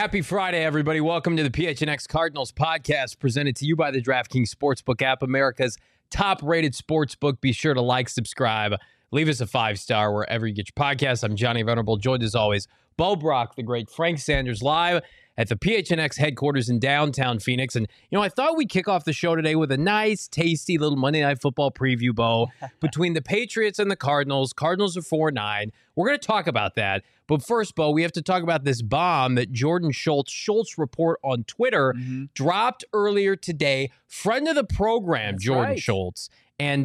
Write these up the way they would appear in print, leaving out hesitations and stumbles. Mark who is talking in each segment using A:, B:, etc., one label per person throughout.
A: Happy Friday, everybody. Welcome to the PHNX Cardinals podcast presented to you by the DraftKings Sportsbook app, America's top-rated sportsbook. Be sure to like, subscribe, leave us a 5-star wherever you get your podcasts. I'm Johnny Venerable, joined as always, Bo Brock, the great Frank Sanders, live at the PHNX headquarters in downtown Phoenix. And, I thought we'd kick off the show today with a nice, tasty little Monday Night Football preview, Bo, between the Patriots and the Cardinals. Cardinals are 4-9. We're going to talk about that. But first, Bo, we have to talk about this bomb that Jordan Schultz report on Twitter dropped earlier today. Friend of the program, that's Jordan Schultz. And,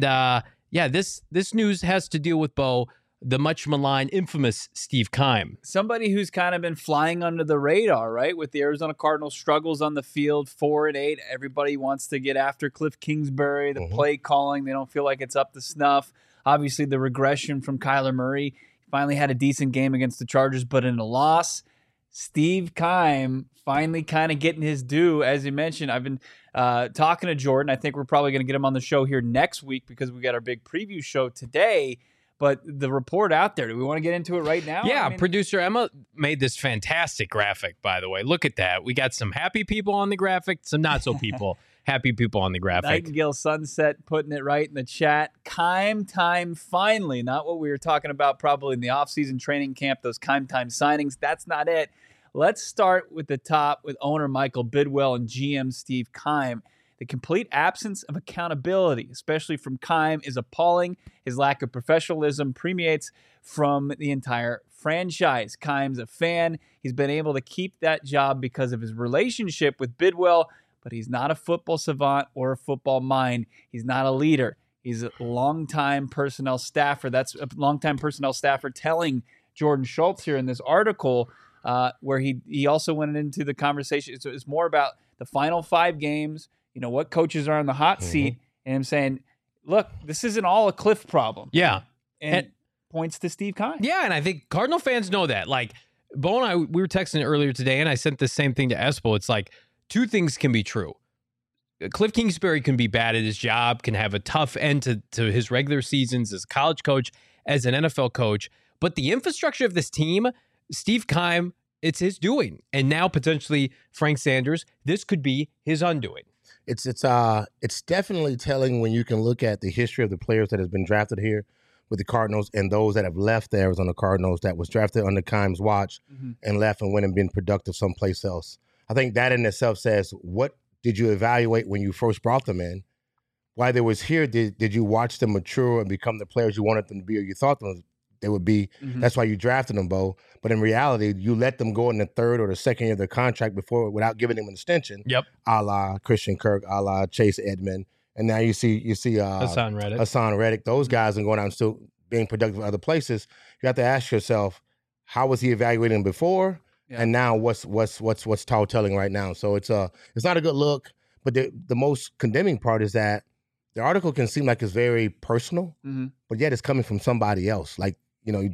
A: this news has to deal with, Bo, the much maligned, infamous Steve Keim.
B: Somebody who's kind of been flying under the radar, right? With the Arizona Cardinals struggles on the field, 4-8. Everybody wants to get after Cliff Kingsbury, the play calling. They don't feel like it's up to snuff. Obviously, the regression from Kyler Murray. Finally had a decent game against the Chargers, but in a loss. Steve Keim finally kind of getting his due. As you mentioned, I've been talking to Jordan. I think we're probably going to get him on the show here next week because we got our big preview show today. But the report out there, do we want to get into it right now?
A: Yeah, producer Emma made this fantastic graphic, by the way. Look at that. We got some happy people on the graphic, some not-so people. Happy people on the graphic.
B: Nightingale Sunset putting it right in the chat. Keim time finally. Not what we were talking about probably in the offseason training camp, those Keim time signings. That's not it. Let's start with the top with owner Michael Bidwell and GM Steve Keim. The complete absence of accountability, especially from Keim, is appalling. His lack of professionalism permeates from the entire franchise. Keim's a fan. He's been able to keep that job because of his relationship with Bidwell, but he's not a football savant or a football mind. He's not a leader. He's a longtime personnel staffer. That's a longtime personnel staffer telling Jordan Schultz here in this article where he also went into the conversation. So it's more about the final 5 games, what coaches are on the hot seat, and I'm saying, look, this isn't all a Cliff problem.
A: Yeah.
B: And points to Steve Keim.
A: Yeah, and I think Cardinal fans know that. Like, Bo and I, we were texting earlier today, and I sent the same thing to Espo. It's like, 2 things can be true. Cliff Kingsbury can be bad at his job, can have a tough end to his regular seasons as a college coach, as an NFL coach. But the infrastructure of this team, Steve Keim, it's his doing. And now potentially Frank Sanders, this could be his undoing.
C: It's definitely telling when you can look at the history of the players that has been drafted here with the Cardinals and those that have left the Arizona Cardinals that was drafted under Keim's watch and left and went and been productive someplace else. I think that in itself says, what did you evaluate when you first brought them in? While they was here, did you watch them mature and become the players you wanted them to be or you thought they would be? That's why you drafted them, Bo. But in reality, you let them go in the 3rd or the 2nd year of their contract before without giving them an extension.
A: Yep.
C: A la Christian Kirk, a la Chase Edmonds. And now you see
A: Hassan
C: Reddick. Those guys are going out and still being productive in other places. You have to ask yourself, how was he evaluating before? Yeah. And now what's tall telling right now? So it's not a good look. But the most condemning part is that the article can seem like it's very personal, but yet it's coming from somebody else. Like you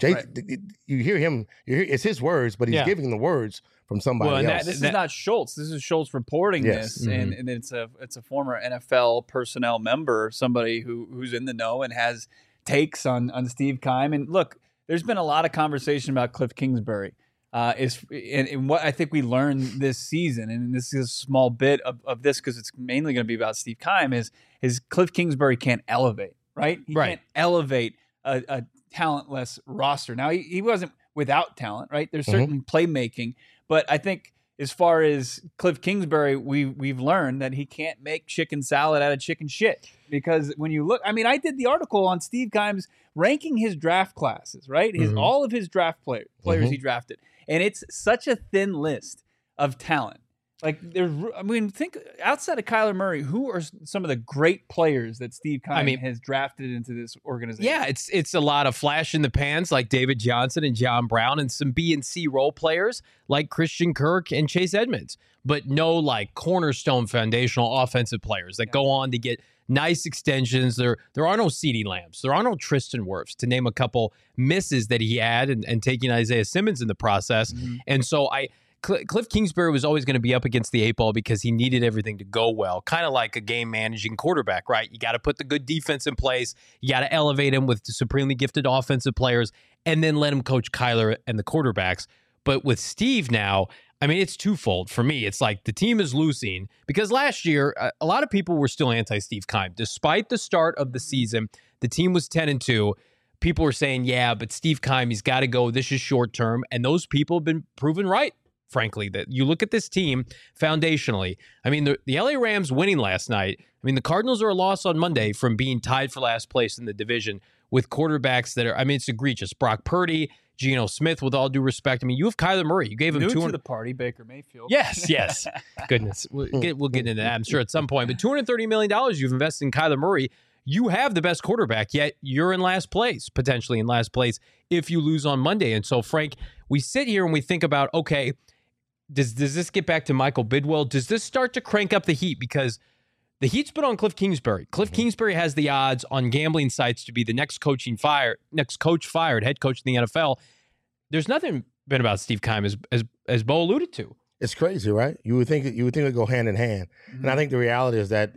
C: hear him. It's his words, but he's giving the words from somebody else.
B: This is not Schultz. This is Schultz reporting this, and it's a former NFL personnel member, somebody who's in the know and has takes on Steve Keim. And look, there's been a lot of conversation about Cliff Kingsbury. And what I think we learned this season, and this is a small bit of this because it's mainly going to be about Steve Keim, is Cliff Kingsbury can't elevate, right? He can't elevate a talentless roster. Now, he wasn't without talent, right? There's certain playmaking, but I think as far as Cliff Kingsbury, we've learned that he can't make chicken salad out of chicken shit. Because when you look, I did the article on Steve Keim's ranking his draft classes, right? All of his draft players he drafted. And it's such a thin list of talent. Like, think outside of Kyler Murray, who are some of the great players that Steve Keim has drafted into this organization?
A: Yeah, it's a lot of flash in the pans like David Johnson and John Brown, and some B and C role players like Christian Kirk and Chase Edmonds, but no like cornerstone foundational offensive players that go on to get nice extensions. There are no CeeDee Lambs. There are no Tristan Wirfs, to name a couple misses that he had, and taking Isaiah Simmons in the process. And so Cliff Kingsbury was always going to be up against the 8 ball because he needed everything to go well, kind of like a game-managing quarterback, right? You got to put the good defense in place. You got to elevate him with supremely gifted offensive players, and then let him coach Kyler and the quarterbacks. But with Steve now, I mean, it's twofold for me. It's like the team is losing because last year, a lot of people were still anti-Steve Keim. Despite the start of the season, the team was 10-2. People were saying, yeah, but Steve Keim, he's got to go. This is short term. And those people have been proven right, frankly, that you look at this team foundationally. I mean, the LA Rams winning last night. I mean, the Cardinals are a loss on Monday from being tied for last place in the division with quarterbacks that are, I mean, it's egregious. Brock Purdy, Geno Smith, with all due respect. I mean, you have Kyler Murray. You gave him
B: to the party, Baker Mayfield.
A: Yes. Goodness. We'll get into that, I'm sure, at some point. But $230 million you've invested in Kyler Murray. You have the best quarterback, yet you're in last place, potentially in last place, if you lose on Monday. And so, Frank, we sit here and we think about, okay, does this get back to Michael Bidwell? Does this start to crank up the heat? Because the heat's been on Cliff Kingsbury. Cliff Kingsbury has the odds on gambling sites to be the next coach fired, head coach in the NFL. There's nothing been about Steve Keim, as Bo alluded to.
C: It's crazy, right? You would think it go hand in hand. Mm-hmm. And I think the reality is that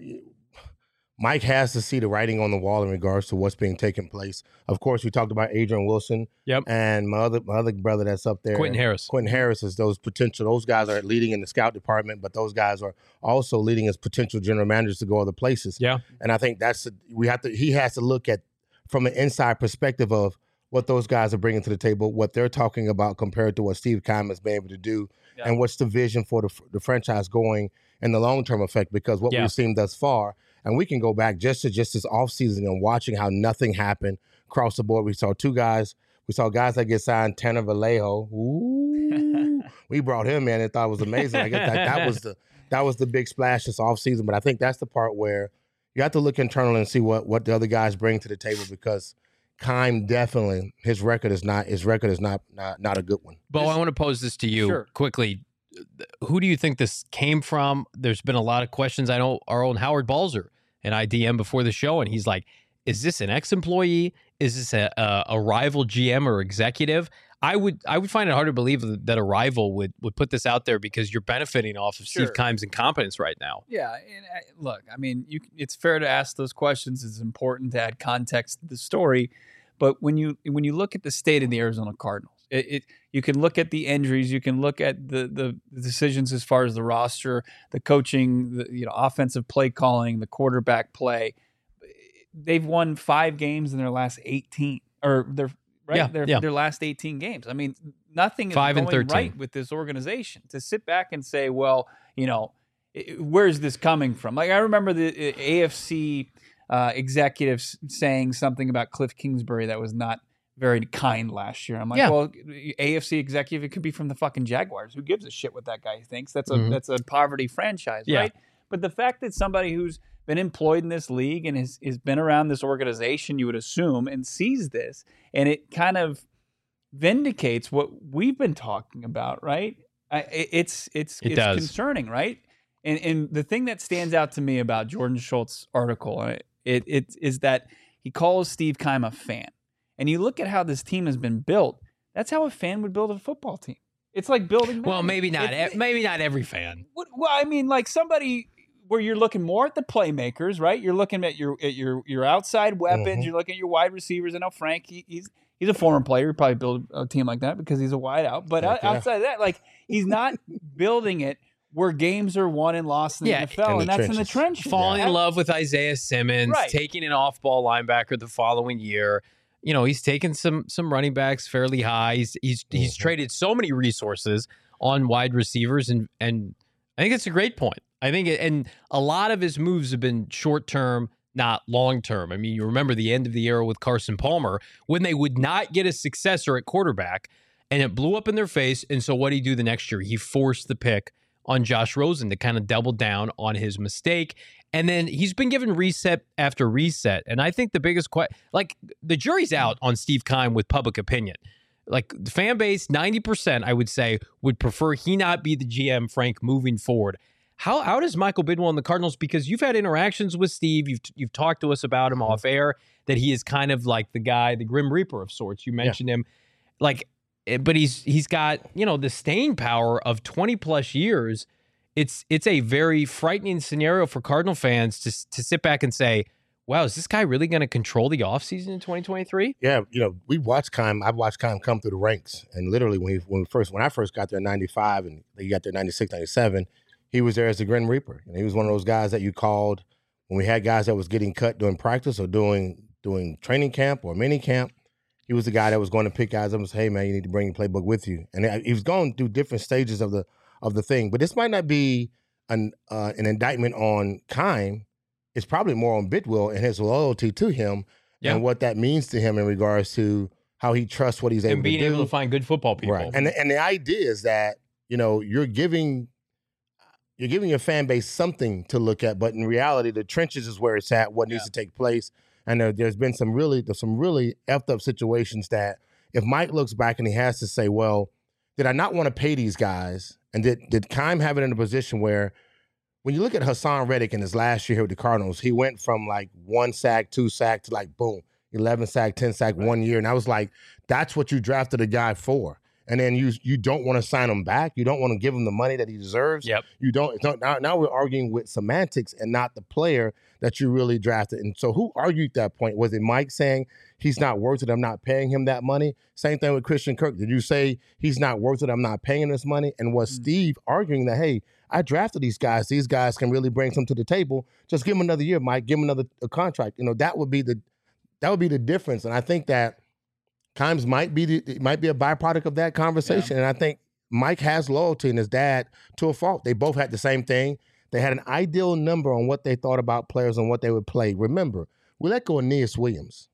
C: Mike has to see the writing on the wall in regards to what's being taken place. Of course, we talked about Adrian Wilson.
A: Yep.
C: And my other brother that's up there,
A: Quentin Harris.
C: Quentin Harris is those guys are leading in the scout department, but those guys are also leading as potential general managers to go other places.
A: Yeah.
C: And I think he has to look at from an inside perspective of what those guys are bringing to the table, what they're talking about compared to what Steve Keim has been able to do, and what's the vision for the franchise going in the long-term effect, because what we've seen thus far, and we can go back just this offseason and watching how nothing happened across the board. We saw guys that get signed, Tanner Vallejo. Ooh, we brought him in and thought it was amazing. I guess that was the big splash this offseason, but I think that's the part where you have to look internally and see what the other guys bring to the table, because Keim definitely his record is not a good one.
A: Bo, I want to pose this to you quickly. Who do you think this came from? There's been a lot of questions. I know our own Howard Balzer and I DM before the show, and he's like, "Is this an ex-employee? Is this a rival GM or executive?" I would find it hard to believe that a rival would put this out there, because you're benefiting off of Steve Keim's incompetence right now.
B: Yeah, and look, I mean, it's fair to ask those questions. It's important to add context to the story, but when you look at the state of the Arizona Cardinals, you can look at the injuries, you can look at the decisions as far as the roster, the coaching, the offensive play calling, the quarterback play. They've won 5 games in their last 18, or their last 18 games. I mean, nothing is going right with this organization. To sit back and say, well, where's this coming from? Like, I remember the AFC executives saying something about Cliff Kingsbury that was not very kind last year. I'm like, well, AFC executive, it could be from the fucking Jaguars. Who gives a shit what that guy thinks? That's a poverty franchise, right? But the fact that somebody who's been employed in this league and has been around this organization, you would assume, and sees this, and it kind of vindicates what we've been talking about, right? It's concerning, right? And the thing that stands out to me about Jordan Schultz's article, it is that he calls Steve Keim a fan. And you look at how this team has been built. That's how a fan would build a football team. It's like building.
A: Well, maybe not every fan.
B: Well, I mean, like somebody where you're looking more at the playmakers, right? You're looking at your outside weapons. Mm-hmm. You're looking at your wide receivers. I know Frank, he's a former player. He'd probably build a team like that because he's a wideout. But outside of that, like, he's not building it where games are won and lost in the NFL, and that's in the trenches.
A: Falling in love with Isaiah Simmons, taking an off-ball linebacker the following year. He's taken some running backs fairly high. He's traded so many resources on wide receivers, and I think it's a great point. I think and a lot of his moves have been short-term, not long-term. I mean, you remember the end of the era with Carson Palmer when they would not get a successor at quarterback, and it blew up in their face. And so what did he do the next year? He forced the pick on Josh Rosen to kind of double down on his mistake. And then he's been given reset after reset. And I think the biggest the jury's out on Steve Keim with public opinion. Like, the fan base, 90%, I would say, would prefer he not be the GM, Frank, moving forward. How does Michael Bidwell and the Cardinals, because you've had interactions with Steve, you've talked to us about him off air, that he is kind of like the guy, the Grim Reaper of sorts. You mentioned him. Like, but he's got, the staying power of 20 plus years. It's a very frightening scenario for Cardinal fans to sit back and say, wow, is this guy really going to control the offseason in 2023?
C: Yeah, we watched Keim. I've watched Keim come through the ranks, and literally when I first got there in '95, and he got there in '96, '97, he was there as the Grim Reaper, and he was one of those guys that you called when we had guys that was getting cut during practice or doing training camp or mini camp. He was the guy that was going to pick guys up and say, "Hey, man, you need to bring your playbook with you." And he was going through different stages of the thing. But this might not be an indictment on Keim. It's probably more on Bidwell and his loyalty to him and what that means to him in regards to how he trusts what he's able to do.
A: And being able to find good football people.
C: Right. And the idea is that, you're giving your fan base something to look at, but in reality, the trenches is where it's at, what needs to take place. And there's been some really effed up situations that if Mike looks back and he has to say, well, did I not want to pay these guys? And did Keim have it in a position where, when you look at Hassan Reddick in his last year here with the Cardinals, he went from like 1 sack, 2 sack to like, boom, 11 sack, 10 sack 1 year. And I was like, that's what you drafted a guy for. And then you don't want to sign him back. You don't want to give him the money that he deserves.
A: Yep.
C: Now we're arguing with semantics and not the player that you really drafted. And so who argued that point? Was it Mike saying he's not worth it, I'm not paying him that money? Same thing with Christian Kirk. Did you say he's not worth it, I'm not paying him this money? And was Steve arguing that, hey, I drafted these guys can really bring some to the table. Just give him another year, Mike. Give him another contract. That would be the difference. And I think that Keim might be a byproduct of that conversation. And I think Mike has loyalty in his dad to a fault. They both had the same thing. They had an ideal number on what they thought about players and what they would play. Remember, we let go of Aeneas Williams.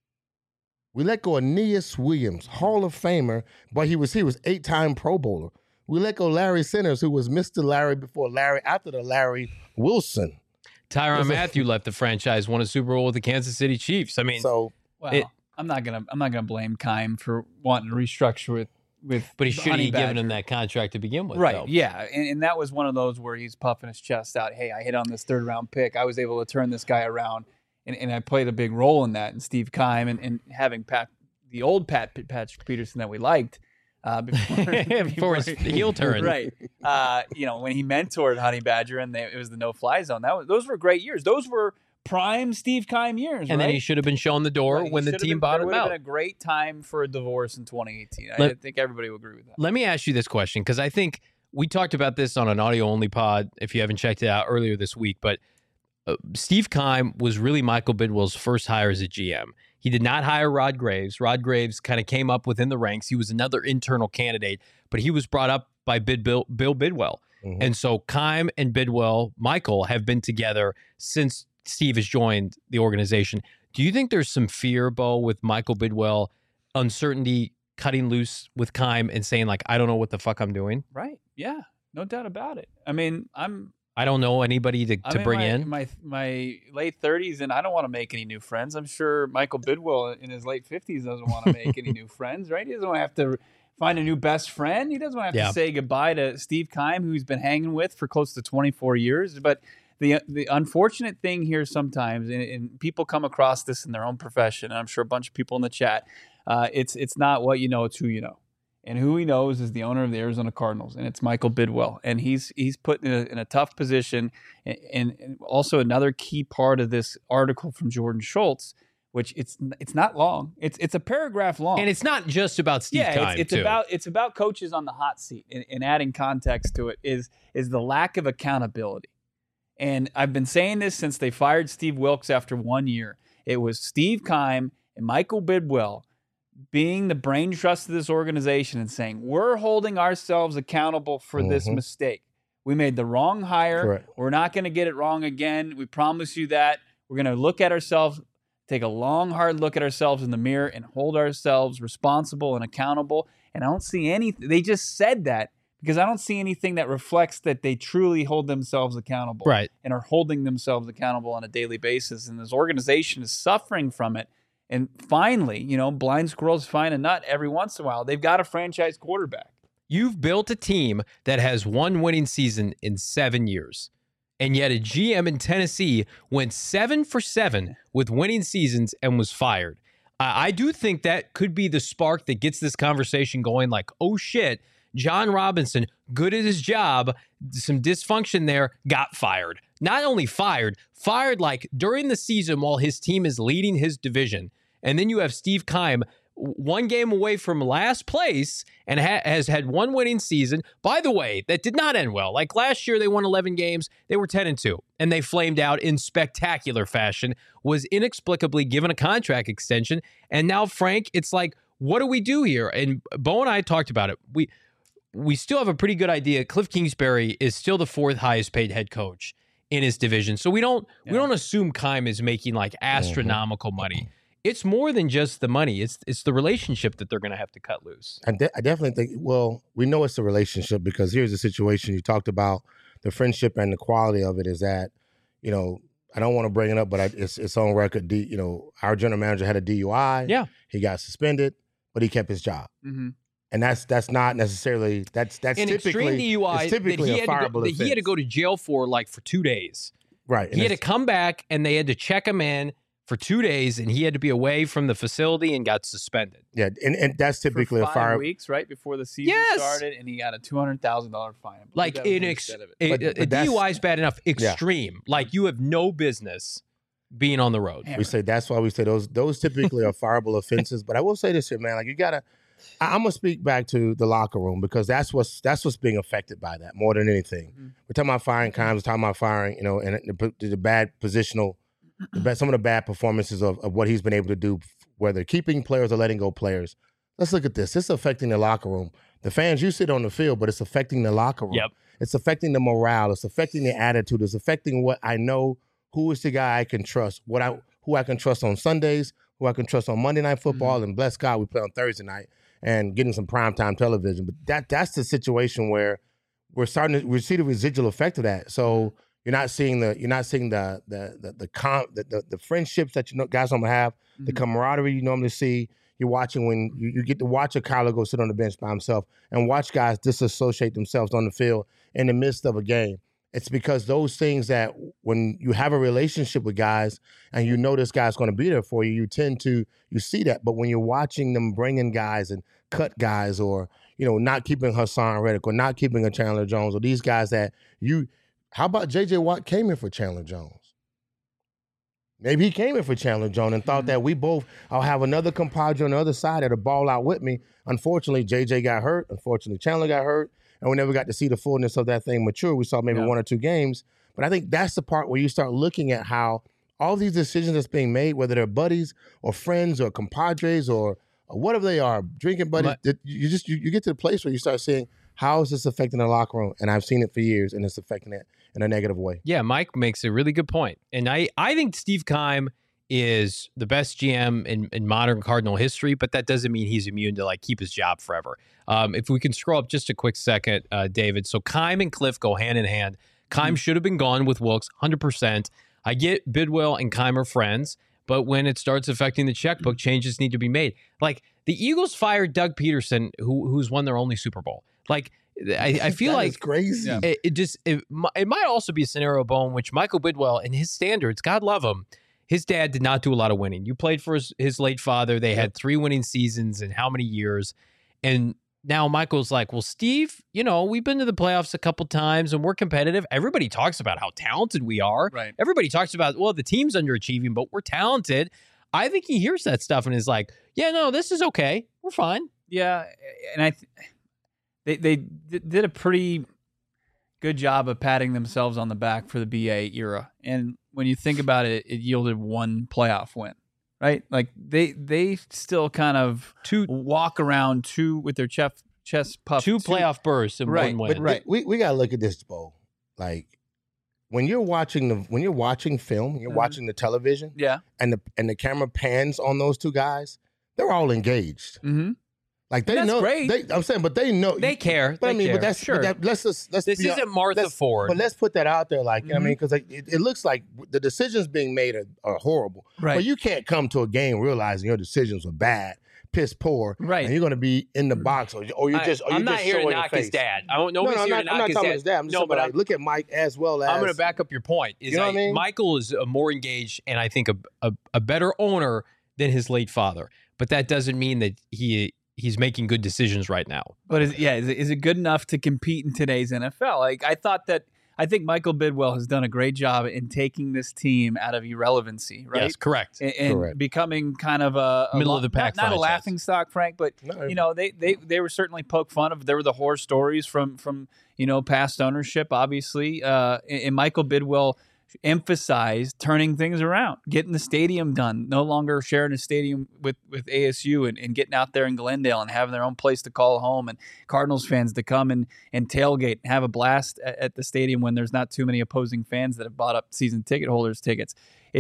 C: Hall of Famer, but he was 8-time Pro Bowler. We let go Larry Centers, who was Mr. Larry before Larry, after the Larry Wilson.
A: Tyrann Mathieu left the franchise, won a Super Bowl with the Kansas City Chiefs. I mean,
B: I'm not gonna blame Keim for wanting to restructure with.
A: But he should have given him that contract to begin with,
B: right?
A: Though.
B: Yeah, and that was one of those where he's puffing his chest out. Hey, I hit on this 3rd round pick. I was able to turn this guy around, and I played a big role in that. And Steve Keim and having the old Patrick Peterson that we liked.
A: Before his heel turn,
B: right? When he mentored Honey Badger and it was the no-fly zone. Those were great years. Those were prime Steve Keim years.
A: And then he should have been shown the door when the team bottomed out. It would have
B: been a great time for a divorce in 2018. I think everybody will agree with that.
A: Let me ask you this question, because I think we talked about this on an audio-only pod, if you haven't checked it out, earlier this week. But Steve Keim was really Michael Bidwell's first hire as a GM. He did not hire Rod Graves. Rod Graves kind of came up within the ranks. He was another internal candidate, but he was brought up by Bill Bidwell. Mm-hmm. And so Keim and Bidwell, Michael, have been together since Steve has joined the organization. Do you think there's some fear, Bo, with Michael Bidwell, uncertainty, cutting loose with Keim and saying, like, I don't know what the fuck I'm doing?
B: Right. Yeah. No doubt about it. I mean,
A: I don't know anybody to bring in.
B: My late 30s, and I don't want to make any new friends. I'm sure Michael Bidwell in his late 50s doesn't want to make any new friends, right? He doesn't want to have to find a new best friend. He doesn't want to have to say goodbye to Steve Keim, who he's been hanging with for close to 24 years. But the unfortunate thing here sometimes, and people come across this in their own profession, and I'm sure a bunch of people in the chat, it's not what you know, it's who you know. And who he knows is the owner of the Arizona Cardinals, and it's Michael Bidwell. And he's put in a tough position. And also another key part of this article from Jordan Schultz, which it's not long. It's a paragraph long.
A: And it's not just about Steve Keim,
B: it's about coaches on the hot seat. And adding context to it is the lack of accountability. And I've been saying this since they fired Steve Wilks after 1 year. It was Steve Keim and Michael Bidwell being the brain trust of this organization and saying, we're holding ourselves accountable for this mistake. We made the wrong hire.
C: Correct.
B: We're not going to get it wrong again. We promise you that. We're going to look at ourselves, take a long, hard look at ourselves in the mirror and hold ourselves responsible and accountable. And I don't see anything. They just said that because I don't see anything that reflects that they truly hold themselves accountable.
A: Right.
B: And are holding themselves accountable on a daily basis. And this organization is suffering from it. And finally, blind squirrels find a nut every once in a while. They've got a franchise quarterback.
A: You've built a team that has one winning season in 7 years. And yet a GM in Tennessee went 7 for 7 with winning seasons and was fired. I do think that could be the spark that gets this conversation going, like, oh shit, John Robinson, good at his job, some dysfunction there, got fired. Not only fired like during the season while his team is leading his division. And then you have Steve Keim, one game away from last place and has had one winning season. By the way, that did not end well. Like last year, they won 11 games. They were 10-2, and they flamed out in spectacular fashion, was inexplicably given a contract extension. And now, Frank, it's like, what do we do here? And Bo and I talked about it. We still have a pretty good idea. Cliff Kingsbury is still the 4th highest paid head coach in his division. So we don't assume Keim is making like astronomical money. It's more than just the money. It's the relationship that they're going to have to cut loose.
C: I definitely think, well, we know it's a relationship because here's the situation. You talked about the friendship and the quality of it is that, I don't want to bring it up, but it's on record. Our general manager had a DUI.
A: Yeah.
C: He got suspended, but he kept his job. Mm-hmm. And that's not necessarily, that's
A: an
C: typically,
A: extreme DUI
C: typically a fireable offense.
A: He had to go to jail for 2 days.
C: Right.
A: He had to come back and they had to check him in for 2 days, and he had to be away from the facility and got suspended.
C: Yeah, and that's typically
B: for 5
C: a fire.
B: weeks, right before the season started, and he got a $200,000 fine.
A: Like a DUI is bad enough. Extreme, like you have no business being on the road.
C: We say that's why we say those typically are fireable offenses. But I will say this here, man. Like you gotta, I'm gonna speak back to the locker room because that's what's being affected by that more than anything. Mm-hmm. We're talking about firing Keim, we're talking about firing, and the bad positional. Some of the bad performances of what he's been able to do, whether keeping players or letting go players. Let's look at this. It's affecting the locker room. The fans, you sit on the field, but it's affecting the locker room.
A: Yep.
C: It's affecting the morale. It's affecting the attitude. It's affecting what I know, who is the guy I can trust, who I can trust on Sundays, who I can trust on Monday Night Football, and bless God, we play on Thursday night and getting some primetime television. But that's the situation where we see the residual effect of that. So you're not seeing the friendships that guys normally have, the camaraderie you normally see. You're watching when you get to watch a Kyler go sit on the bench by himself and watch guys disassociate themselves on the field in the midst of a game. It's because those things that when you have a relationship with guys and you know this guy's going to be there for you, you see that. But when you're watching them bring in guys and cut guys or, not keeping Hassan Reddick or not keeping a Chandler Jones or these guys that how about J.J. Watt came in for Chandler Jones? Maybe he came in for Chandler Jones and thought that I'll have another compadre on the other side that'll ball out with me. Unfortunately, J.J. got hurt. Unfortunately, Chandler got hurt. And we never got to see the fullness of that thing mature. We saw maybe 1 or 2 games. But I think that's the part where you start looking at how all these decisions that's being made, whether they're buddies or friends or compadres or whatever they are, drinking buddies, you get to the place where you start saying, how is this affecting the locker room? And I've seen it for years, and it's affecting it in a negative way.
A: Yeah, Mike makes a really good point. And I think Steve Keim is the best GM in modern Cardinal history, but that doesn't mean he's immune to keep his job forever. If we can scroll up just a quick second, David. So Keim and Cliff go hand in hand. Keim should have been gone with Wilks, 100%. I get Bidwell and Keim are friends, but when it starts affecting the checkbook, changes need to be made. Like the Eagles fired Doug Peterson, who's won their only Super Bowl. Like I feel like
C: it's crazy.
A: It might also be a scenario, Bo, in which Michael Bidwell and his standards, God love him, his dad did not do a lot of winning. You played for his late father. They had 3 winning seasons in how many years? And now Michael's like, well, Steve, we've been to the playoffs a couple times and we're competitive. Everybody talks about how talented we are.
B: Right.
A: Everybody talks about, well, the team's underachieving, but we're talented. I think he hears that stuff and is like, yeah, no, this is okay. We're fine.
B: Yeah, and They did a pretty good job of patting themselves on the back for the BA era. And when you think about it, it yielded 1 playoff win, right? Like they still kind of walk around with their chest puffed.
A: 2 playoff bursts and 1 win.
C: But we got to look at this, Bo. Like when you're watching film, you're watching the television, and the camera pans on those 2 guys, they're all engaged.
B: Mm-hmm.
C: Like they know, I'm saying, but they know
A: they care.
C: But
A: care.
C: But that's
A: sure.
C: Let's.
A: This isn't Martha Ford.
C: But let's put that out there, because it looks like the decisions being made are horrible.
B: Right.
C: But you can't come to a game realizing your decisions were bad, piss poor,
B: right?
C: And you're going to be in the box, or you're just.
A: I'm not here to knock his dad. Nobody's here to knock his dad.
C: I'm just saying, look at Mike as well as.
A: I'm going to back up your point.
C: You know what I mean?
A: Michael is more engaged, and I think a better owner than his late father. But that doesn't mean that he he's making good decisions right now.
B: But is it good enough to compete in today's NFL? Like, I think Michael Bidwell has done a great job in taking this team out of irrelevancy, right?
A: Yes, correct.
B: And becoming kind of a
A: middle of the pack,
B: not a laughing stock, Frank, but they were certainly poked fun of. There were the horror stories from past ownership, obviously, and Michael Bidwell emphasized turning things around, getting the stadium done, no longer sharing a stadium with ASU and getting out there in Glendale and having their own place to call home, and Cardinals fans to come and tailgate and have a blast at the stadium when there's not too many opposing fans that have bought up season ticket holders tickets.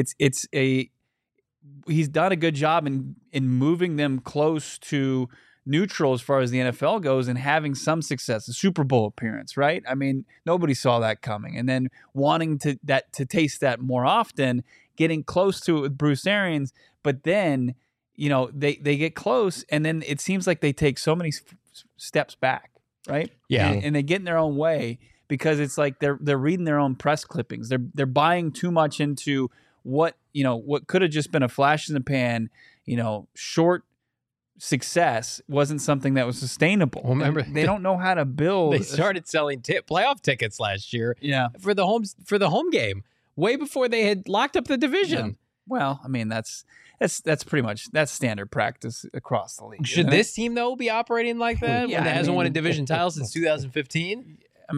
B: He's done a good job in moving them close to neutral as far as the NFL goes and having some success, a Super Bowl appearance, right? I mean, nobody saw that coming. And then wanting to taste that more often, getting close to it with Bruce Arians, but then, they get close and then it seems like they take so many steps back, right?
A: Yeah.
B: And they get in their own way because it's like they're reading their own press clippings. They're buying too much into what could have just been a flash in the pan, short success wasn't something that was sustainable.
A: Well, remember,
B: they don't know how to build.
A: They started selling playoff tickets last year.
B: Yeah,
A: for the home game, way before they had locked up the division.
B: Yeah. Well, I mean that's pretty much standard practice across the league.
A: Should this team though be operating like that when it hasn't won a division title since 2015?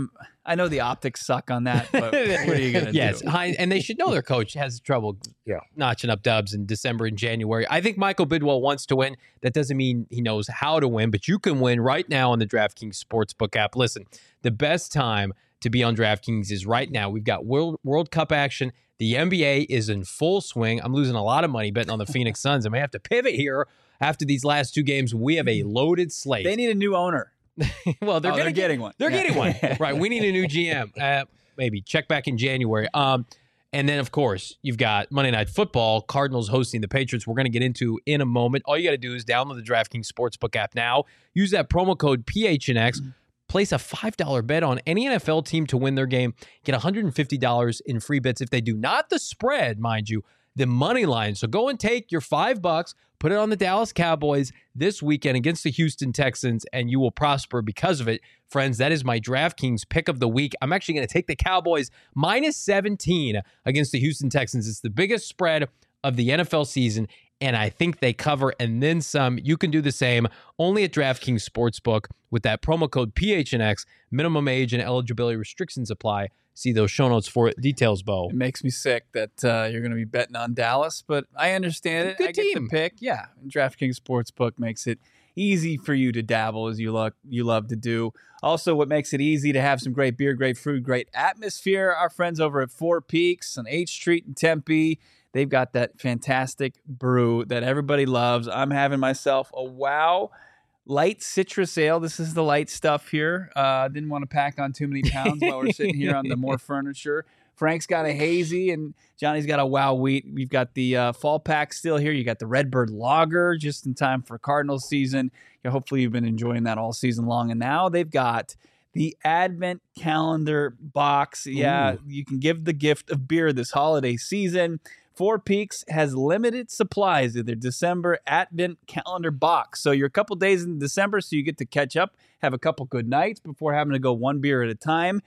B: I know the optics suck on that, but what are you going to do?
A: Yes, and they should know their coach has trouble notching up dubs in December and January. I think Michael Bidwell wants to win. That doesn't mean he knows how to win, but you can win right now on the DraftKings Sportsbook app. Listen, the best time to be on DraftKings is right now. We've got World Cup action. The NBA is in full swing. I'm losing a lot of money betting on the Phoenix Suns. I may have to pivot here after these last two games. We have a loaded slate.
B: They need a new owner.
A: Well, they're
B: getting one.
A: They're getting one. Right. We need a new GM. Maybe check back in January. And then, of course, you've got Monday Night Football, Cardinals hosting the Patriots. We're going to get into in a moment. All you got to do is download the DraftKings Sportsbook app now. Use that promo code PHNX. Place a $5 bet on any NFL team to win their game. Get $150 in free bets if they do. Not the spread, mind you, the money line. So go and take your $5, put it on the Dallas Cowboys this weekend against the Houston Texans, and you will prosper because of it. Friends, that is my DraftKings pick of the week. I'm actually going to take the Cowboys minus 17 against the Houston Texans. It's the biggest spread of the NFL season, and I think they cover and then some. You can do the same only at DraftKings Sportsbook with that promo code PHNX. Minimum age and eligibility restrictions apply. See those show notes for details, Bo.
B: It makes me sick that you're going to be betting on Dallas, but I understand it.
A: Good team.
B: Get the pick. Yeah, DraftKings Sportsbook makes it easy for you to dabble as you love to do. Also, what makes it easy to have some great beer, great food, great atmosphere. Our friends over at Four Peaks on H Street in Tempe, they've got that fantastic brew that everybody loves. I'm having myself a wow light citrus ale. This is the light stuff here. Didn't want to pack on too many pounds while we're sitting here on the more furniture. Frank's got a hazy and Johnny's got a wow wheat. We've got the fall pack still here. You got the Redbird Lager just in time for Cardinals season. Hopefully you've been enjoying that all season long. And now they've got the Advent Calendar box. Yeah, ooh. You can give the gift of beer this holiday season. Four Peaks has limited supplies of their December Advent Calendar box. So you're a couple days in December, so you get to catch up, have a couple good nights before having to go one beer at a time.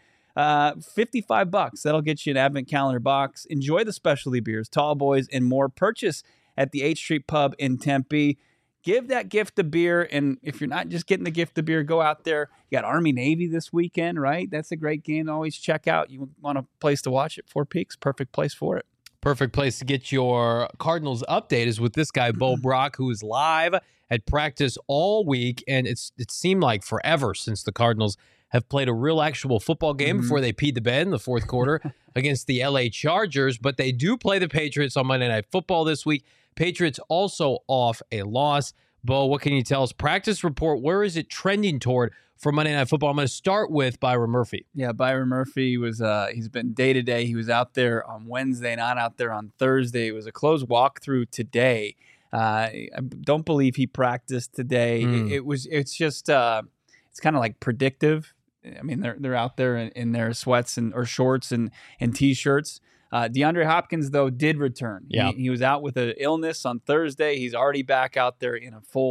B: $55. That'll get you an Advent Calendar box. Enjoy the specialty beers, tall boys, and more. Purchase at the H Street Pub in Tempe. Give that gift of beer, and if you're not just getting the gift of beer, go out there. You got Army-Navy this weekend, right? That's a great game to always check out. You want a place to watch it, Four Peaks, perfect place for it.
A: Perfect place to get your Cardinals update is with this guy, Bo Brock, who is live at practice all week, and it seemed like forever since the Cardinals have played a real actual football game before they peed the bed in the fourth quarter against the LA Chargers, but they do play the Patriots on Monday Night Football this week. Patriots also off a loss. Bo, what can you tell us? Practice report, where is it trending toward for Monday Night Football? I'm going to start with Byron Murphy.
B: Yeah, Byron Murphy was he's been day-to-day. He was out there on Wednesday, not out there on Thursday. It was a closed walkthrough today. I don't believe he practiced today. It's kind of like predictive. I mean, they're out there in their sweats or shorts and T-shirts. DeAndre Hopkins, though, did return.
A: Yeah.
B: He was out with an illness on Thursday. He's already back out there in a full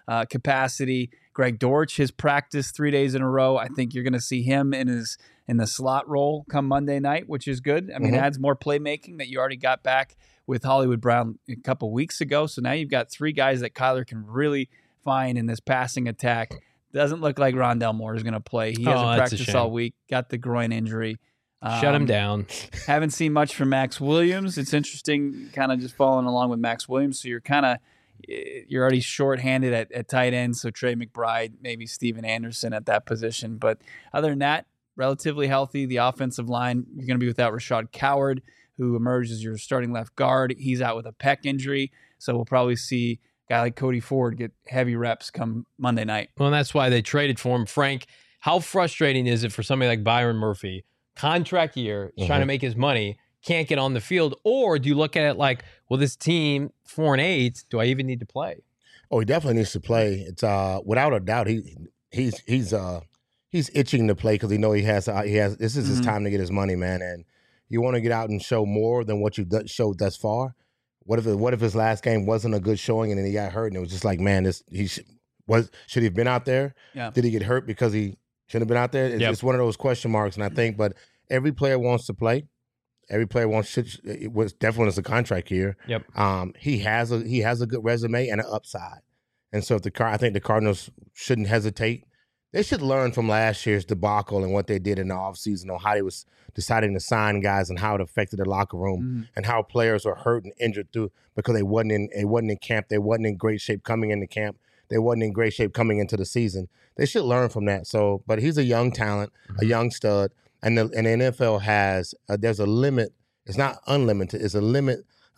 B: capacity. Greg Dortch has practiced 3 days in a row. I think you're going to see him in the slot role come Monday night, which is good. I mean, it adds more playmaking that you already got back with Hollywood Brown a couple weeks ago. So now you've got 3 guys that Kyler can really find in this passing attack. Doesn't look like Rondell Moore is going to play. He hasn't practiced all week. Got the groin injury.
A: Shut him down.
B: Haven't seen much from Max Williams. It's interesting, kind of just following along with Max Williams. So you're already shorthanded at tight end. So Trey McBride, maybe Steven Anderson at that position. But other than that, relatively healthy. The offensive line, you're going to be without Rashad Coward, who emerged as your starting left guard. He's out with a pec injury. So we'll probably see a guy like Cody Ford get heavy reps come Monday night.
A: Well, that's why they traded for him. Frank, how frustrating is it for somebody like Byron Murphy? Contract year, he's trying to make his money, can't get on the field. Or do you look at it like, well, this team 4-8, do I even need to play?
C: Oh, he definitely needs to play. It's without a doubt he's itching to play because he has this is his time to get his money, man. And you want to get out and show more than what you've showed thus far. What if his last game wasn't a good showing and then he got hurt and it was just like, man, should he have been out there?
B: Yeah.
C: Did he get hurt because he shouldn't have been out there? It's one of those question marks, and I think, but every player wants to play. Every player it was definitely a contract year.
A: Yep.
C: He has a good resume and an upside, and so I think the Cardinals shouldn't hesitate. They should learn from last year's debacle and what they did in the offseason on how they was deciding to sign guys and how it affected the locker room and how players were hurt and injured because they wasn't in camp. They wasn't in great shape coming into camp. They wasn't in great shape coming into the season. They should learn from that. So, but he's a young talent, a young stud, and the NFL has there's a limit. It's not unlimited. It's a limit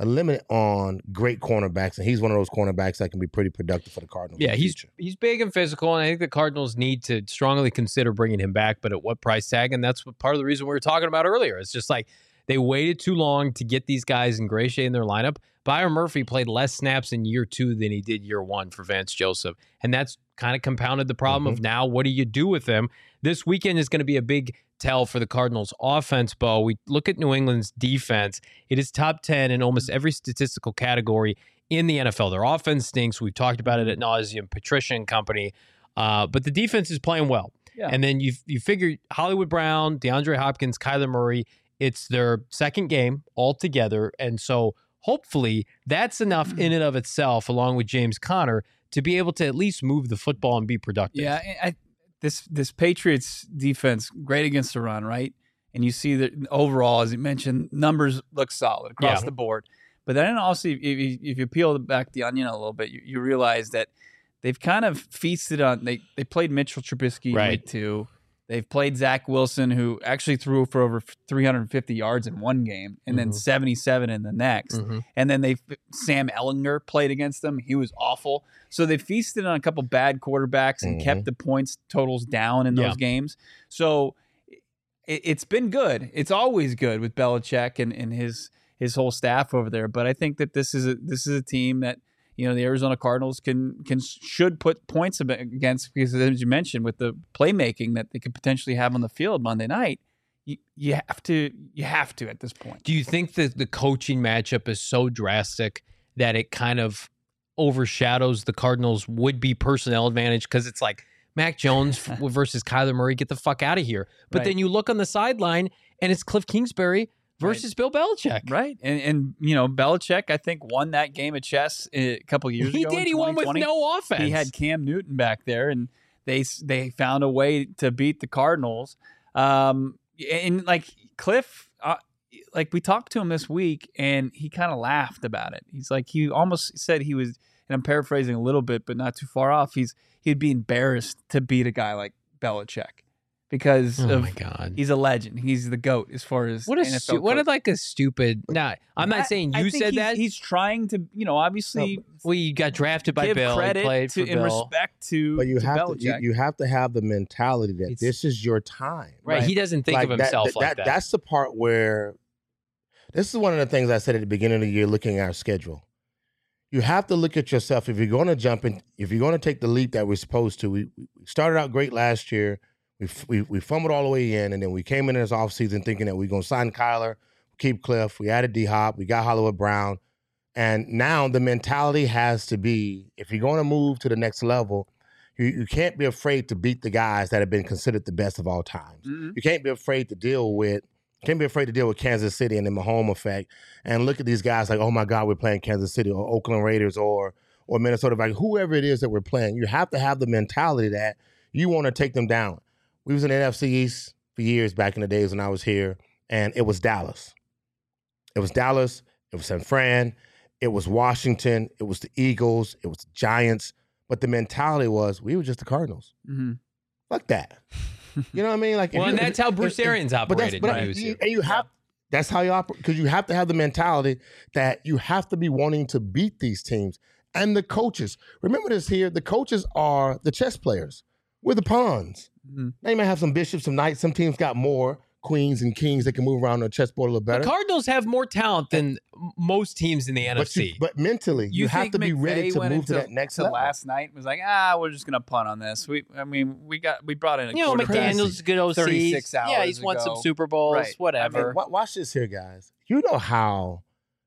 C: on great cornerbacks, and he's one of those cornerbacks that can be pretty productive for the Cardinals.
A: Yeah, he's big and physical, and I think the Cardinals need to strongly consider bringing him back, but at what price tag? And that's part of the reason we were talking about earlier. It's just like they waited too long to get these guys in great shape in their lineup. Byron Murphy played less snaps in year 2 than he did year 1 for Vance Joseph, and that's kind of compounded the problem of now what do you do with him? This weekend is going to be a big tell for the Cardinals offense, Bo. We look at New England's defense. It is top 10 in almost every statistical category in the NFL. Their offense stinks. We've talked about it at nauseum, Patricia and company. But the defense is playing well. Yeah. And then you figure Hollywood Brown, DeAndre Hopkins, Kyler Murray, it's their second game altogether. And so hopefully that's enough in and of itself, along with James Conner, to be able to at least move the football and be productive.
B: Yeah, this Patriots defense, great against the run, right? And you see that overall, as you mentioned, numbers look solid across the board. But then also, if you peel back the onion a little bit, you realize that they've kind of feasted on, they played Mitchell Trubisky in week 2. They've played Zach Wilson, who actually threw for over 350 yards in one game and then 77 in the next. And then Sam Ellinger played against them. He was awful. So they feasted on a couple bad quarterbacks and kept the points totals down in those games. So it's been good. It's always good with Belichick and his whole staff over there. But I think that this is a team that, you know, the Arizona Cardinals should put points against, because as you mentioned, with the playmaking that they could potentially have on the field Monday night, you have to at this point.
A: Do you think that the coaching matchup is so drastic that it kind of overshadows the Cardinals' would-be personnel advantage? Because it's like Mac Jones versus Kyler Murray, get the fuck out of here. But then you look on the sideline and it's Cliff Kingsbury versus Bill Belichick.
B: Right. And you know, Belichick, I think, won that game of chess a couple years ago.
A: He did. He won with no offense.
B: He had Cam Newton back there, and they found a way to beat the Cardinals. And like Cliff, like we talked to him this week, and he kind of laughed about it. He's like, he almost said he was, and I'm paraphrasing a little bit, but not too far off, he'd be embarrassed to beat a guy like Belichick. Because
A: my God,
B: he's a legend. He's the GOAT as far as NFL
A: what a stupid. Nah, I'm not saying you said that.
B: He's trying to, you know, obviously.
A: You got drafted by
B: give
A: Bill.
B: Credit
A: played
B: to,
A: for
B: in
A: Bill.
B: respect to.
C: But you
B: Belichick.
C: have to have the mentality that this is your time.
A: Right. He doesn't think of himself like that.
C: That's the part where. This is one of the things I said at the beginning of the year, looking at our schedule. You have to look at yourself if you're going to jump in. If you're going to take the leap that we're supposed to. We started out great last year. We fumbled all the way in, and then we came in this offseason thinking that we're going to sign Kyler, keep Cliff. We added D-Hop. We got Hollywood Brown. And now the mentality has to be, if you're going to move to the next level, you can't be afraid to beat the guys that have been considered the best of all times. You can't be afraid to deal with Kansas City and the Mahomes effect and look at these guys like, oh my God, we're playing Kansas City or Oakland Raiders or Minnesota Vikings, whoever it is that we're playing. You have to have the mentality that you want to take them down. We was in the NFC East for years back in the days when I was here, and it was Dallas. It was San Fran, it was Washington, it was the Eagles, it was the Giants. But the mentality was, we were just the Cardinals. Fuck that. You know what I mean? Like,
A: and that's how Bruce Arians operated.
C: That's how you operate, because you have to have the mentality that you have to be wanting to beat these teams. And the coaches, remember this here, the coaches are the chess players. We're the pawns. They may have some bishops, some knights. Some teams got more queens and kings that can move around the chessboard a little better.
A: The Cardinals have more talent than most teams in the NFC.
C: But mentally, you have to be ready to move to that next level.
B: Last night was like, we're just gonna punt on this. We brought in a
A: McDaniel's a good OC.
B: 36 hours
A: yeah, he's won some Super Bowls, whatever.
C: I mean, watch this here, guys. You know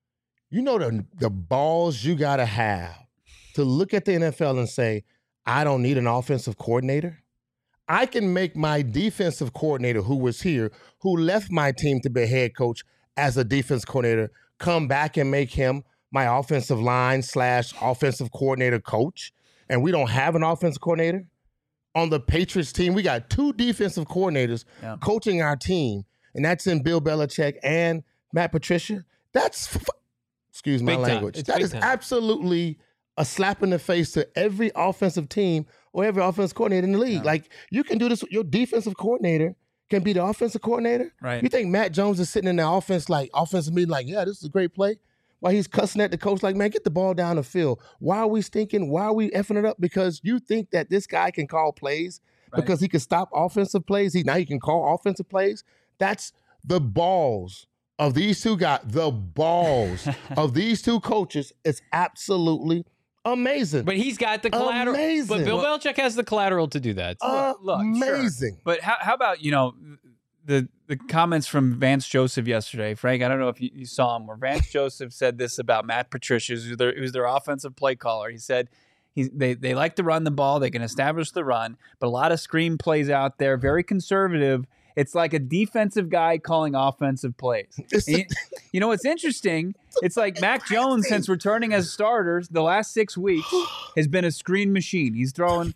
C: the balls you gotta have to look at the NFL and say, I don't need an offensive coordinator. I can make my defensive coordinator who was here, who left my team to be a head coach as a defense coordinator, come back and make him my offensive line / offensive coordinator coach. And we don't have an offensive coordinator. On the Patriots team, we got 2 defensive coordinators coaching our team, and that's in Bill Belichick and Matt Patricia. That's, excuse my language, that is absolutely a slap in the face to every offensive team or every offensive coordinator in the league. Like, you can do this with your defensive coordinator can be the offensive coordinator.
B: Right.
C: You think Matt Jones is sitting in the offensive meeting like, yeah, this is a great play? While he's cussing at the coach like, man, get the ball down the field. Why are we stinking? Why are we effing it up? Because you think that this guy can call plays because he can stop offensive plays. Now he can call offensive plays. That's the balls of these two guys. The balls of these two coaches is absolutely amazing.
A: But he's got the collateral.
C: Amazing.
A: But Bill Belichick has the collateral to do that.
C: Amazing.
B: Sure. But how about, the comments from Vance Joseph yesterday, Frank? I don't know if you saw him, where Vance Joseph said this about Matt Patricia, who's their offensive play caller. He said they like to run the ball. They can establish the run, but a lot of screen plays out there, very conservative. It's like a defensive guy calling offensive plays. What's interesting? It's like Mac Jones, since returning as starters the last 6 weeks, has been a screen machine. He's thrown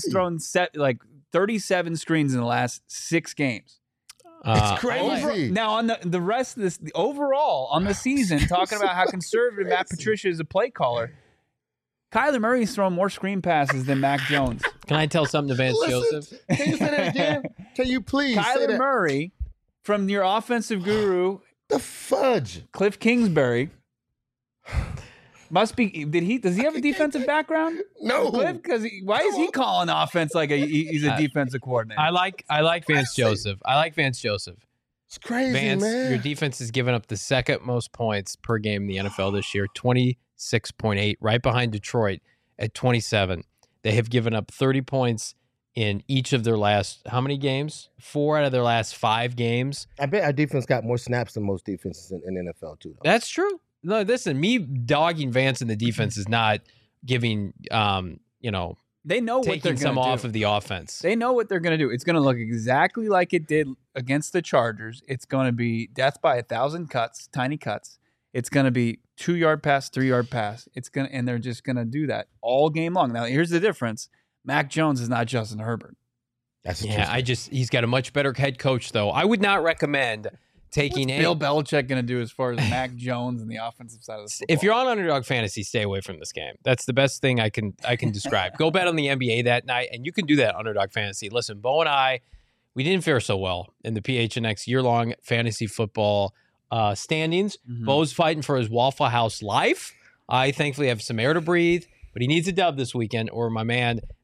B: 37 screens in the last 6 games.
C: It's crazy.
B: Now on the rest of this, overall on the season, talking about how conservative Matt Patricia is a play caller. Kyler Murray's thrown more screen passes than Mac Jones.
A: Can I tell something to Vance Joseph?
C: Can you say that again? Can you please
B: Kyler Murray, from your offensive guru,
C: the fudge,
B: Cliff Kingsbury, must be. Does he have a defensive background?
C: No.
B: Cliff, why is he calling offense like he's a defensive coordinator?
A: I like Vance Joseph. I like Vance Joseph.
C: It's crazy,
A: Vance,
C: man.
A: Your defense has given up the second most points per game in the NFL this year, 26.8, right behind Detroit at 27. They have given up 30 points in each of their last, how many games? 4 out of their last 5 games.
C: I bet our defense got more snaps than most defenses in the NFL, too. Though.
A: That's true. No, listen, me dogging Vance in the defense is not giving,
B: they know what they're
A: taking some off of the offense.
B: They know what they're going to do. It's going to look exactly like it did against the Chargers. It's going to be death by 1,000 cuts, tiny cuts. It's going to be 2-yard pass, 3-yard pass. And they're just going to do that all game long. Now, here's the difference. Mac Jones is not Justin Herbert.
A: He's got a much better head coach, though. I would not recommend taking
B: Bill Belichick going to do as far as Mac Jones and the offensive side of the football?
A: If you're on Underdog Fantasy, stay away from this game. That's the best thing I can describe. Go bet on the NBA that night, and you can do that on Underdog Fantasy. Listen, Bo and I, we didn't fare so well in the PHNX year-long fantasy football standings. Mm-hmm. Bo's fighting for his Waffle House life. I thankfully have some air to breathe, but he needs a dub this weekend, or my man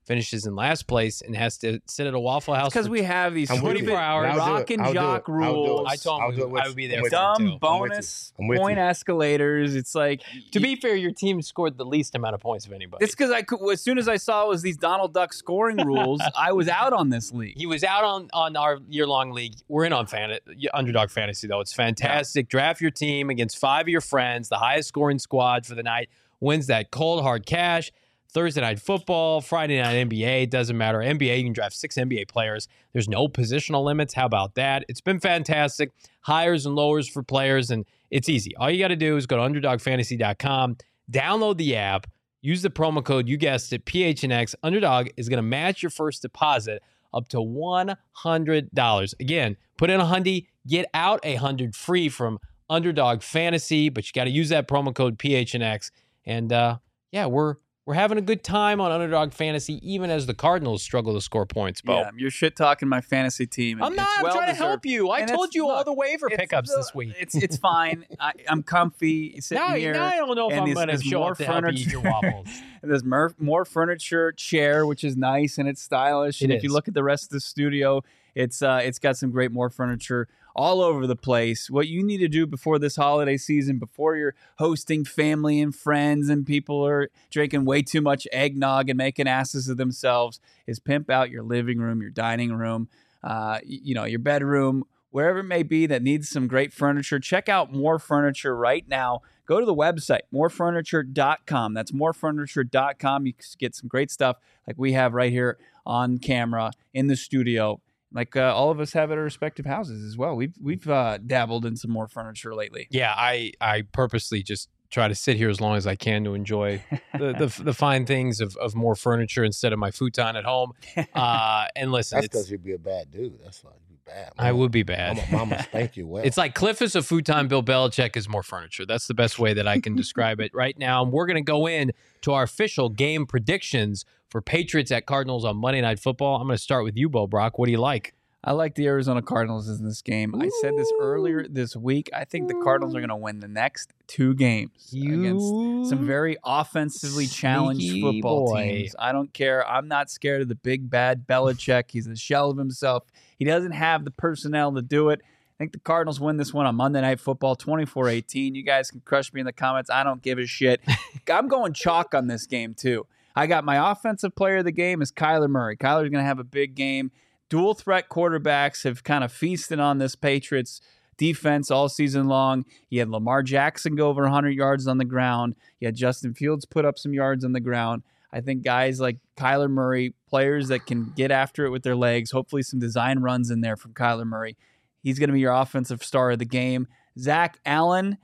A: finishes in last place and has to sit at a Waffle House
B: because we have these
A: 24 hours.
B: Rock and jock rules.
A: I told him I would be there.
B: Dumb bonus point escalators. It's like,
A: to be fair, your team scored the least amount of points of anybody.
B: It's because as soon as I saw it was these Donald Duck scoring rules, I was out on this league.
A: He was out on our year-long league. We're in on Underdog Fantasy, though. It's fantastic. Yeah. Draft your team against 5 of your friends. The highest scoring squad for the night wins that cold, hard cash. Thursday night football, Friday night NBA, doesn't matter. NBA, you can draft 6 NBA players. There's no positional limits. How about that? It's been fantastic. Hires and lowers for players, and it's easy. All you got to do is go to UnderdogFantasy.com, download the app, use the promo code, you guessed it, PHNX. Underdog is going to match your first deposit up to $100. Again, put in $100, get out $100 free from Underdog Fantasy, but you got to use that promo code PHNX. And we're having a good time on Underdog Fantasy, even as the Cardinals struggle to score points, Bo.
B: Yeah, you're shit-talking my fantasy team.
A: I'm not. I'm trying to help you. I told you all the waiver pickups this week.
B: It's fine. I'm comfy sitting here.
A: Now I don't know if I'm going to show up to help you eat your waffles.
B: And there's more furniture, chair, which is nice and it's stylish. And if you look at the rest of the studio, it's got some great more furniture all over the place. What you need to do before this holiday season, before you're hosting family and friends and people are drinking way too much eggnog and making asses of themselves, is pimp out your living room, your dining room, your bedroom, wherever it may be that needs some great furniture. Check out More Furniture right now. Go to the website, morefurniture.com. That's morefurniture.com. You can get some great stuff like we have right here on camera in the studio. Like all of us have at our respective houses as well. We've dabbled in some more furniture lately.
A: Yeah, I purposely just try to sit here as long as I can to enjoy the fine things of more furniture instead of my futon at home. And listen,
C: that's because you'd be a bad dude. That's why you'd be bad.
A: I would be bad.
C: Mama spank you well.
A: It's like Cliff is a futon, Bill Belichick is more furniture. That's the best way that I can describe it right now. And we're going to go in to our official game predictions for Patriots at Cardinals on Monday Night Football. I'm going to start with you, Bo Brock. What do you like?
B: I like the Arizona Cardinals in this game. I said this earlier this week. I think the Cardinals are going to win the next 2 games against some very offensively challenged football teams. I don't care. I'm not scared of the big, bad Belichick. He's a shell of himself. He doesn't have the personnel to do it. I think the Cardinals win this one on Monday Night Football, 24-18. You guys can crush me in the comments. I don't give a shit. I'm going chalk on this game, too. I got my offensive player of the game is Kyler Murray. Kyler's going to have a big game. Dual threat quarterbacks have kind of feasted on this Patriots defense all season long. You had Lamar Jackson go over 100 yards on the ground. You had Justin Fields put up some yards on the ground. I think guys like Kyler Murray, players that can get after it with their legs, hopefully some design runs in there from Kyler Murray. He's going to be your offensive star of the game. Zach Allen,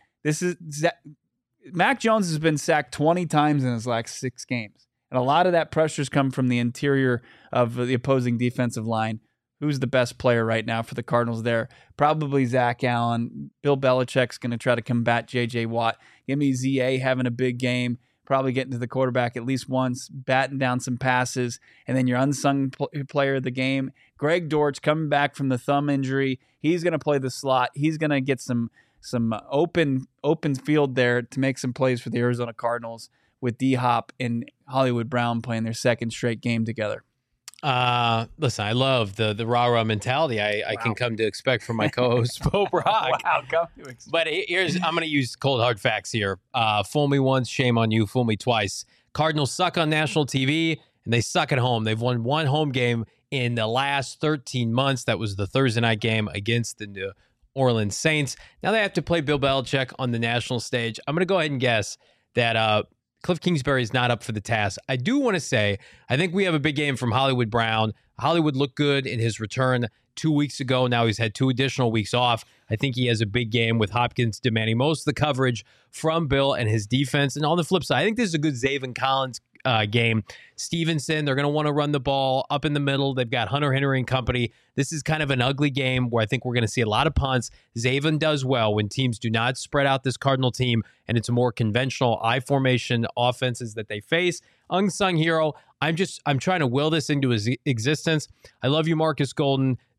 B: Mac Jones has been sacked 20 times in his last 6 games. And a lot of that pressure's come from the interior of the opposing defensive line. Who's the best player right now for the Cardinals there? Probably Zach Allen. Bill Belichick's going to try to combat J.J. Watt. Give me Z.A. having a big game, probably getting to the quarterback at least once, batting down some passes. And then your unsung player of the game, Greg Dortch, coming back from the thumb injury. He's going to play the slot. He's going to get some open field there to make some plays for the Arizona Cardinals, with D-Hop and Hollywood Brown playing their second straight game together.
A: Listen, I love the rah-rah mentality I can come to expect from my co-host, Bo Brock. But I'm going to use cold hard facts here. Fool me once, shame on you. Fool me twice. Cardinals suck on national TV, and they suck at home. They've won 1 home game in the last 13 months. That was the Thursday night game against the New Orleans Saints. Now they have to play Bill Belichick on the national stage. I'm going to go ahead and guess that Cliff Kingsbury is not up for the task. I do want to say, I think we have a big game from Hollywood Brown. Hollywood looked good in his return 2 weeks ago. Now he's had 2 additional weeks off. I think he has a big game with Hopkins demanding most of the coverage from Bill and his defense. And on the flip side, I think this is a good Zaven Collins game. Stevenson, they're going to want to run the ball up in the middle. They've got Hunter Henry and company. This is kind of an ugly game where I think we're going to see a lot of punts. Zaven does well when teams do not spread out this Cardinal team, and it's a more conventional I formation offenses that they face. Unsung hero. I'm trying to will this into his existence. I love you, Marcus Golden.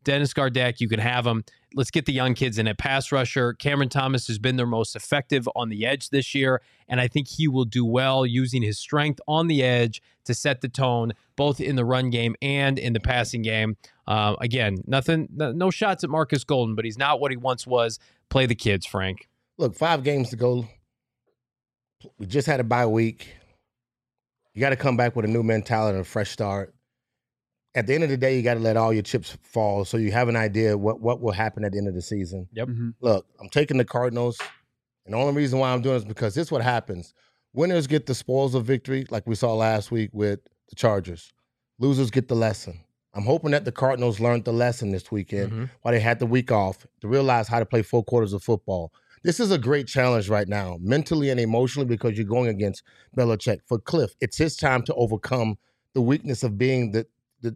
A: Dennis Gardeck, you can have him. Let's get the young kids in at pass rusher. Cameron Thomas has been their most effective on the edge this year, and I think he will do well using his strength on the edge to set the tone, both in the run game and in the passing game. Again, no shots at Marcus Golden, but he's not what he once was. Play the kids, Frank.
C: Look, 5 games to go. We just had a bye week. You got to come back with a new mentality and a fresh start. At the end of the day, you got to let all your chips fall so you have an idea what will happen at the end of the season.
A: Yep. Mm-hmm.
C: Look, I'm taking the Cardinals, and the only reason why I'm doing it is because this is what happens. Winners get the spoils of victory, like we saw last week with the Chargers. Losers get the lesson. I'm hoping that the Cardinals learned the lesson this weekend while they had the week off to realize how to play 4 quarters of football. This is a great challenge right now, mentally and emotionally, because you're going against Belichick. For Cliff, it's his time to overcome the weakness of being the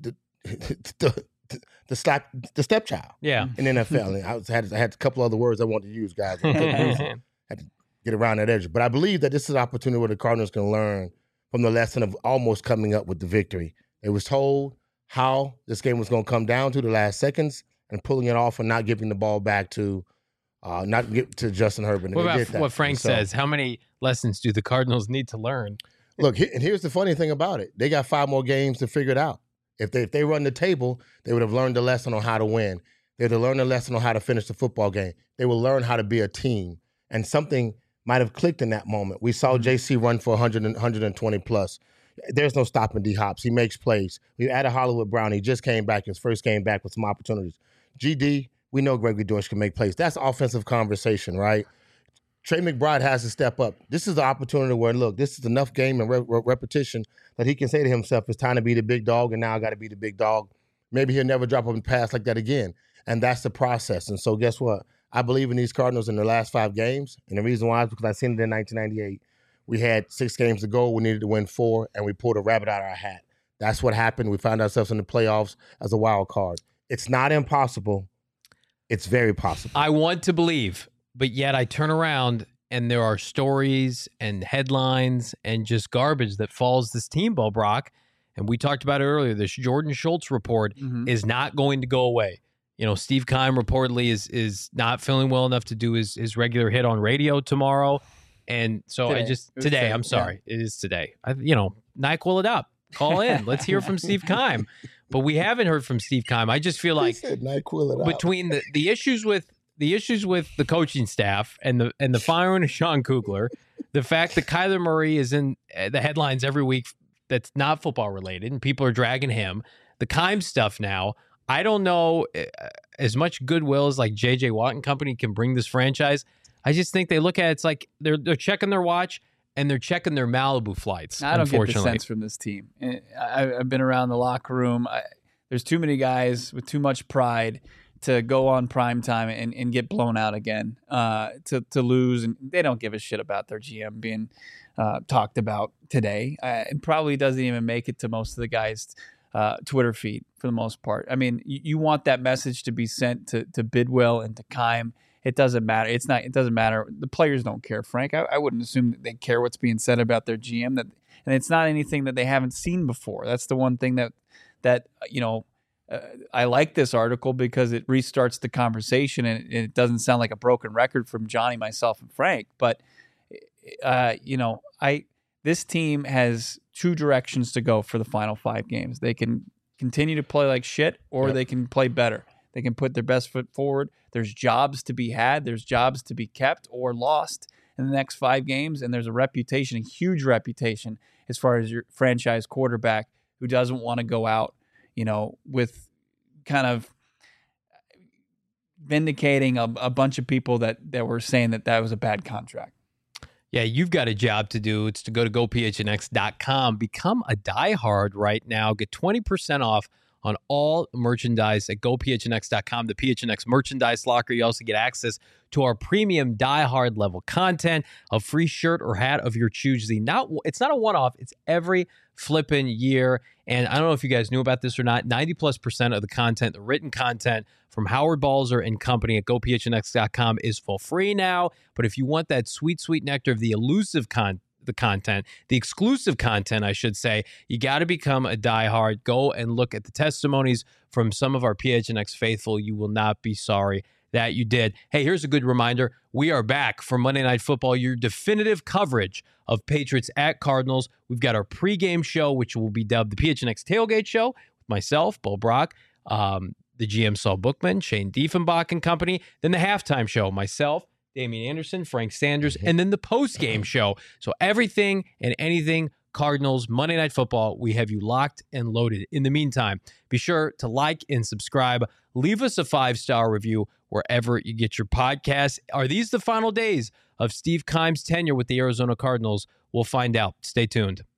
C: stepchild.
A: Yeah.
C: In the NFL. And I had a couple other words I wanted to use, guys. I had to get around that edge. But I believe that this is an opportunity where the Cardinals can learn from the lesson of almost coming up with the victory. It was told how this game was going to come down to the last seconds and pulling it off and not giving the ball back to Justin Herbert.
A: What about what Frank says? How many lessons do the Cardinals need to learn?
C: Look, and here's the funny thing about it. They got 5 more games to figure it out. If they run the table, they would have learned the lesson on how to win. They would have learned the lesson on how to finish the football game. They will learn how to be a team. And something might have clicked in that moment. We saw JC run for 100 and 120 plus. There's no stopping D-Hops. He makes plays. We added Hollywood Brown. He just came back. His first game back with some opportunities. GD, we know Gregory Dortch can make plays. That's offensive conversation, right? Trey McBride has to step up. This is the opportunity where, look, this is enough game and repetition that he can say to himself, it's time to be the big dog, and now I got to be the big dog. Maybe he'll never drop up and pass like that again. And that's the process. And so guess what? I believe in these Cardinals in their last 5 games. And the reason why is because I seen it in 1998. We had 6 games to go. We needed to win 4, and we pulled a rabbit out of our hat. That's what happened. We found ourselves in the playoffs as a wild card. It's not impossible. It's very possible.
A: I want to believe, but yet I turn around and there are stories and headlines and just garbage that follows this team, Bo Brock. And we talked about it earlier. This Jordan Schultz report is not going to go away. You know, Steve Keim reportedly is not feeling well enough to do his regular hit on radio tomorrow. And so today, I'm sorry. Yeah. It is today. NyQuil it up. Call in. Let's hear from Steve Keim. But we haven't heard from Steve Keim. I just feel like between the issues with the coaching staff and the firing of Sean Kugler, the fact that Kyler Murray is in the headlines every week that's not football related and people are dragging him, the Keim stuff now, I don't know as much goodwill as like J.J. Watt and company can bring this franchise. I just think they look at it, it's like they're checking their watch and they're checking their Malibu flights.
B: I don't get the sense from this team. I've been around the locker room. There's too many guys with too much pride to go on primetime and get blown out again, to lose. And they don't give a shit about their GM being talked about today. It probably doesn't even make it to most of the guys' Twitter feed for the most part. I mean, you want that message to be sent to Bidwell and to Keim. It doesn't matter. It doesn't matter. The players don't care, Frank. I wouldn't assume that they care what's being said about their GM. And it's not anything that they haven't seen before. That's the one thing that I like this article because it restarts the conversation and it doesn't sound like a broken record from Johnny, myself, and Frank. But this team has 2 directions to go for the final 5 games. They can continue to play like shit, or they can play better. They can put their best foot forward. There's jobs to be had. There's jobs to be kept or lost in the next 5 games. And there's a huge reputation as far as your franchise quarterback who doesn't want to go out, with kind of vindicating a bunch of people that were saying that was a bad contract.
A: Yeah, you've got a job to do. It's to go to gophnx.com. Become a diehard right now. Get 20% off on all merchandise at gophnx.com, the PHNX merchandise locker. You also get access to our premium diehard level content, a free shirt or hat of your choosing. It's not a one-off. It's every flipping year. And I don't know if you guys knew about this or not. 90+% of the content, the written content from Howard Balzer and company at gophnx.com is for free now. But if you want that sweet, sweet nectar of the elusive the content, the exclusive content, I should say, you got to become a diehard. Go and look at the testimonies from some of our PHNX faithful. You will not be sorry that you did. Hey, here's a good reminder. We are back for Monday Night Football, your definitive coverage of Patriots at Cardinals. We've got our pregame show, which will be dubbed the PHNX Tailgate Show with myself, Bo Brock, the GM Saul Bookman, Shane Diefenbach and company. Then the halftime show, myself, Damian Anderson, Frank Sanders, and then the post-game show. So everything and anything Cardinals, Monday Night Football, we have you locked and loaded. In the meantime, be sure to like and subscribe. Leave us a 5-star review wherever you get your podcasts. Are these the final days of Steve Keim's tenure with the Arizona Cardinals? We'll find out. Stay tuned.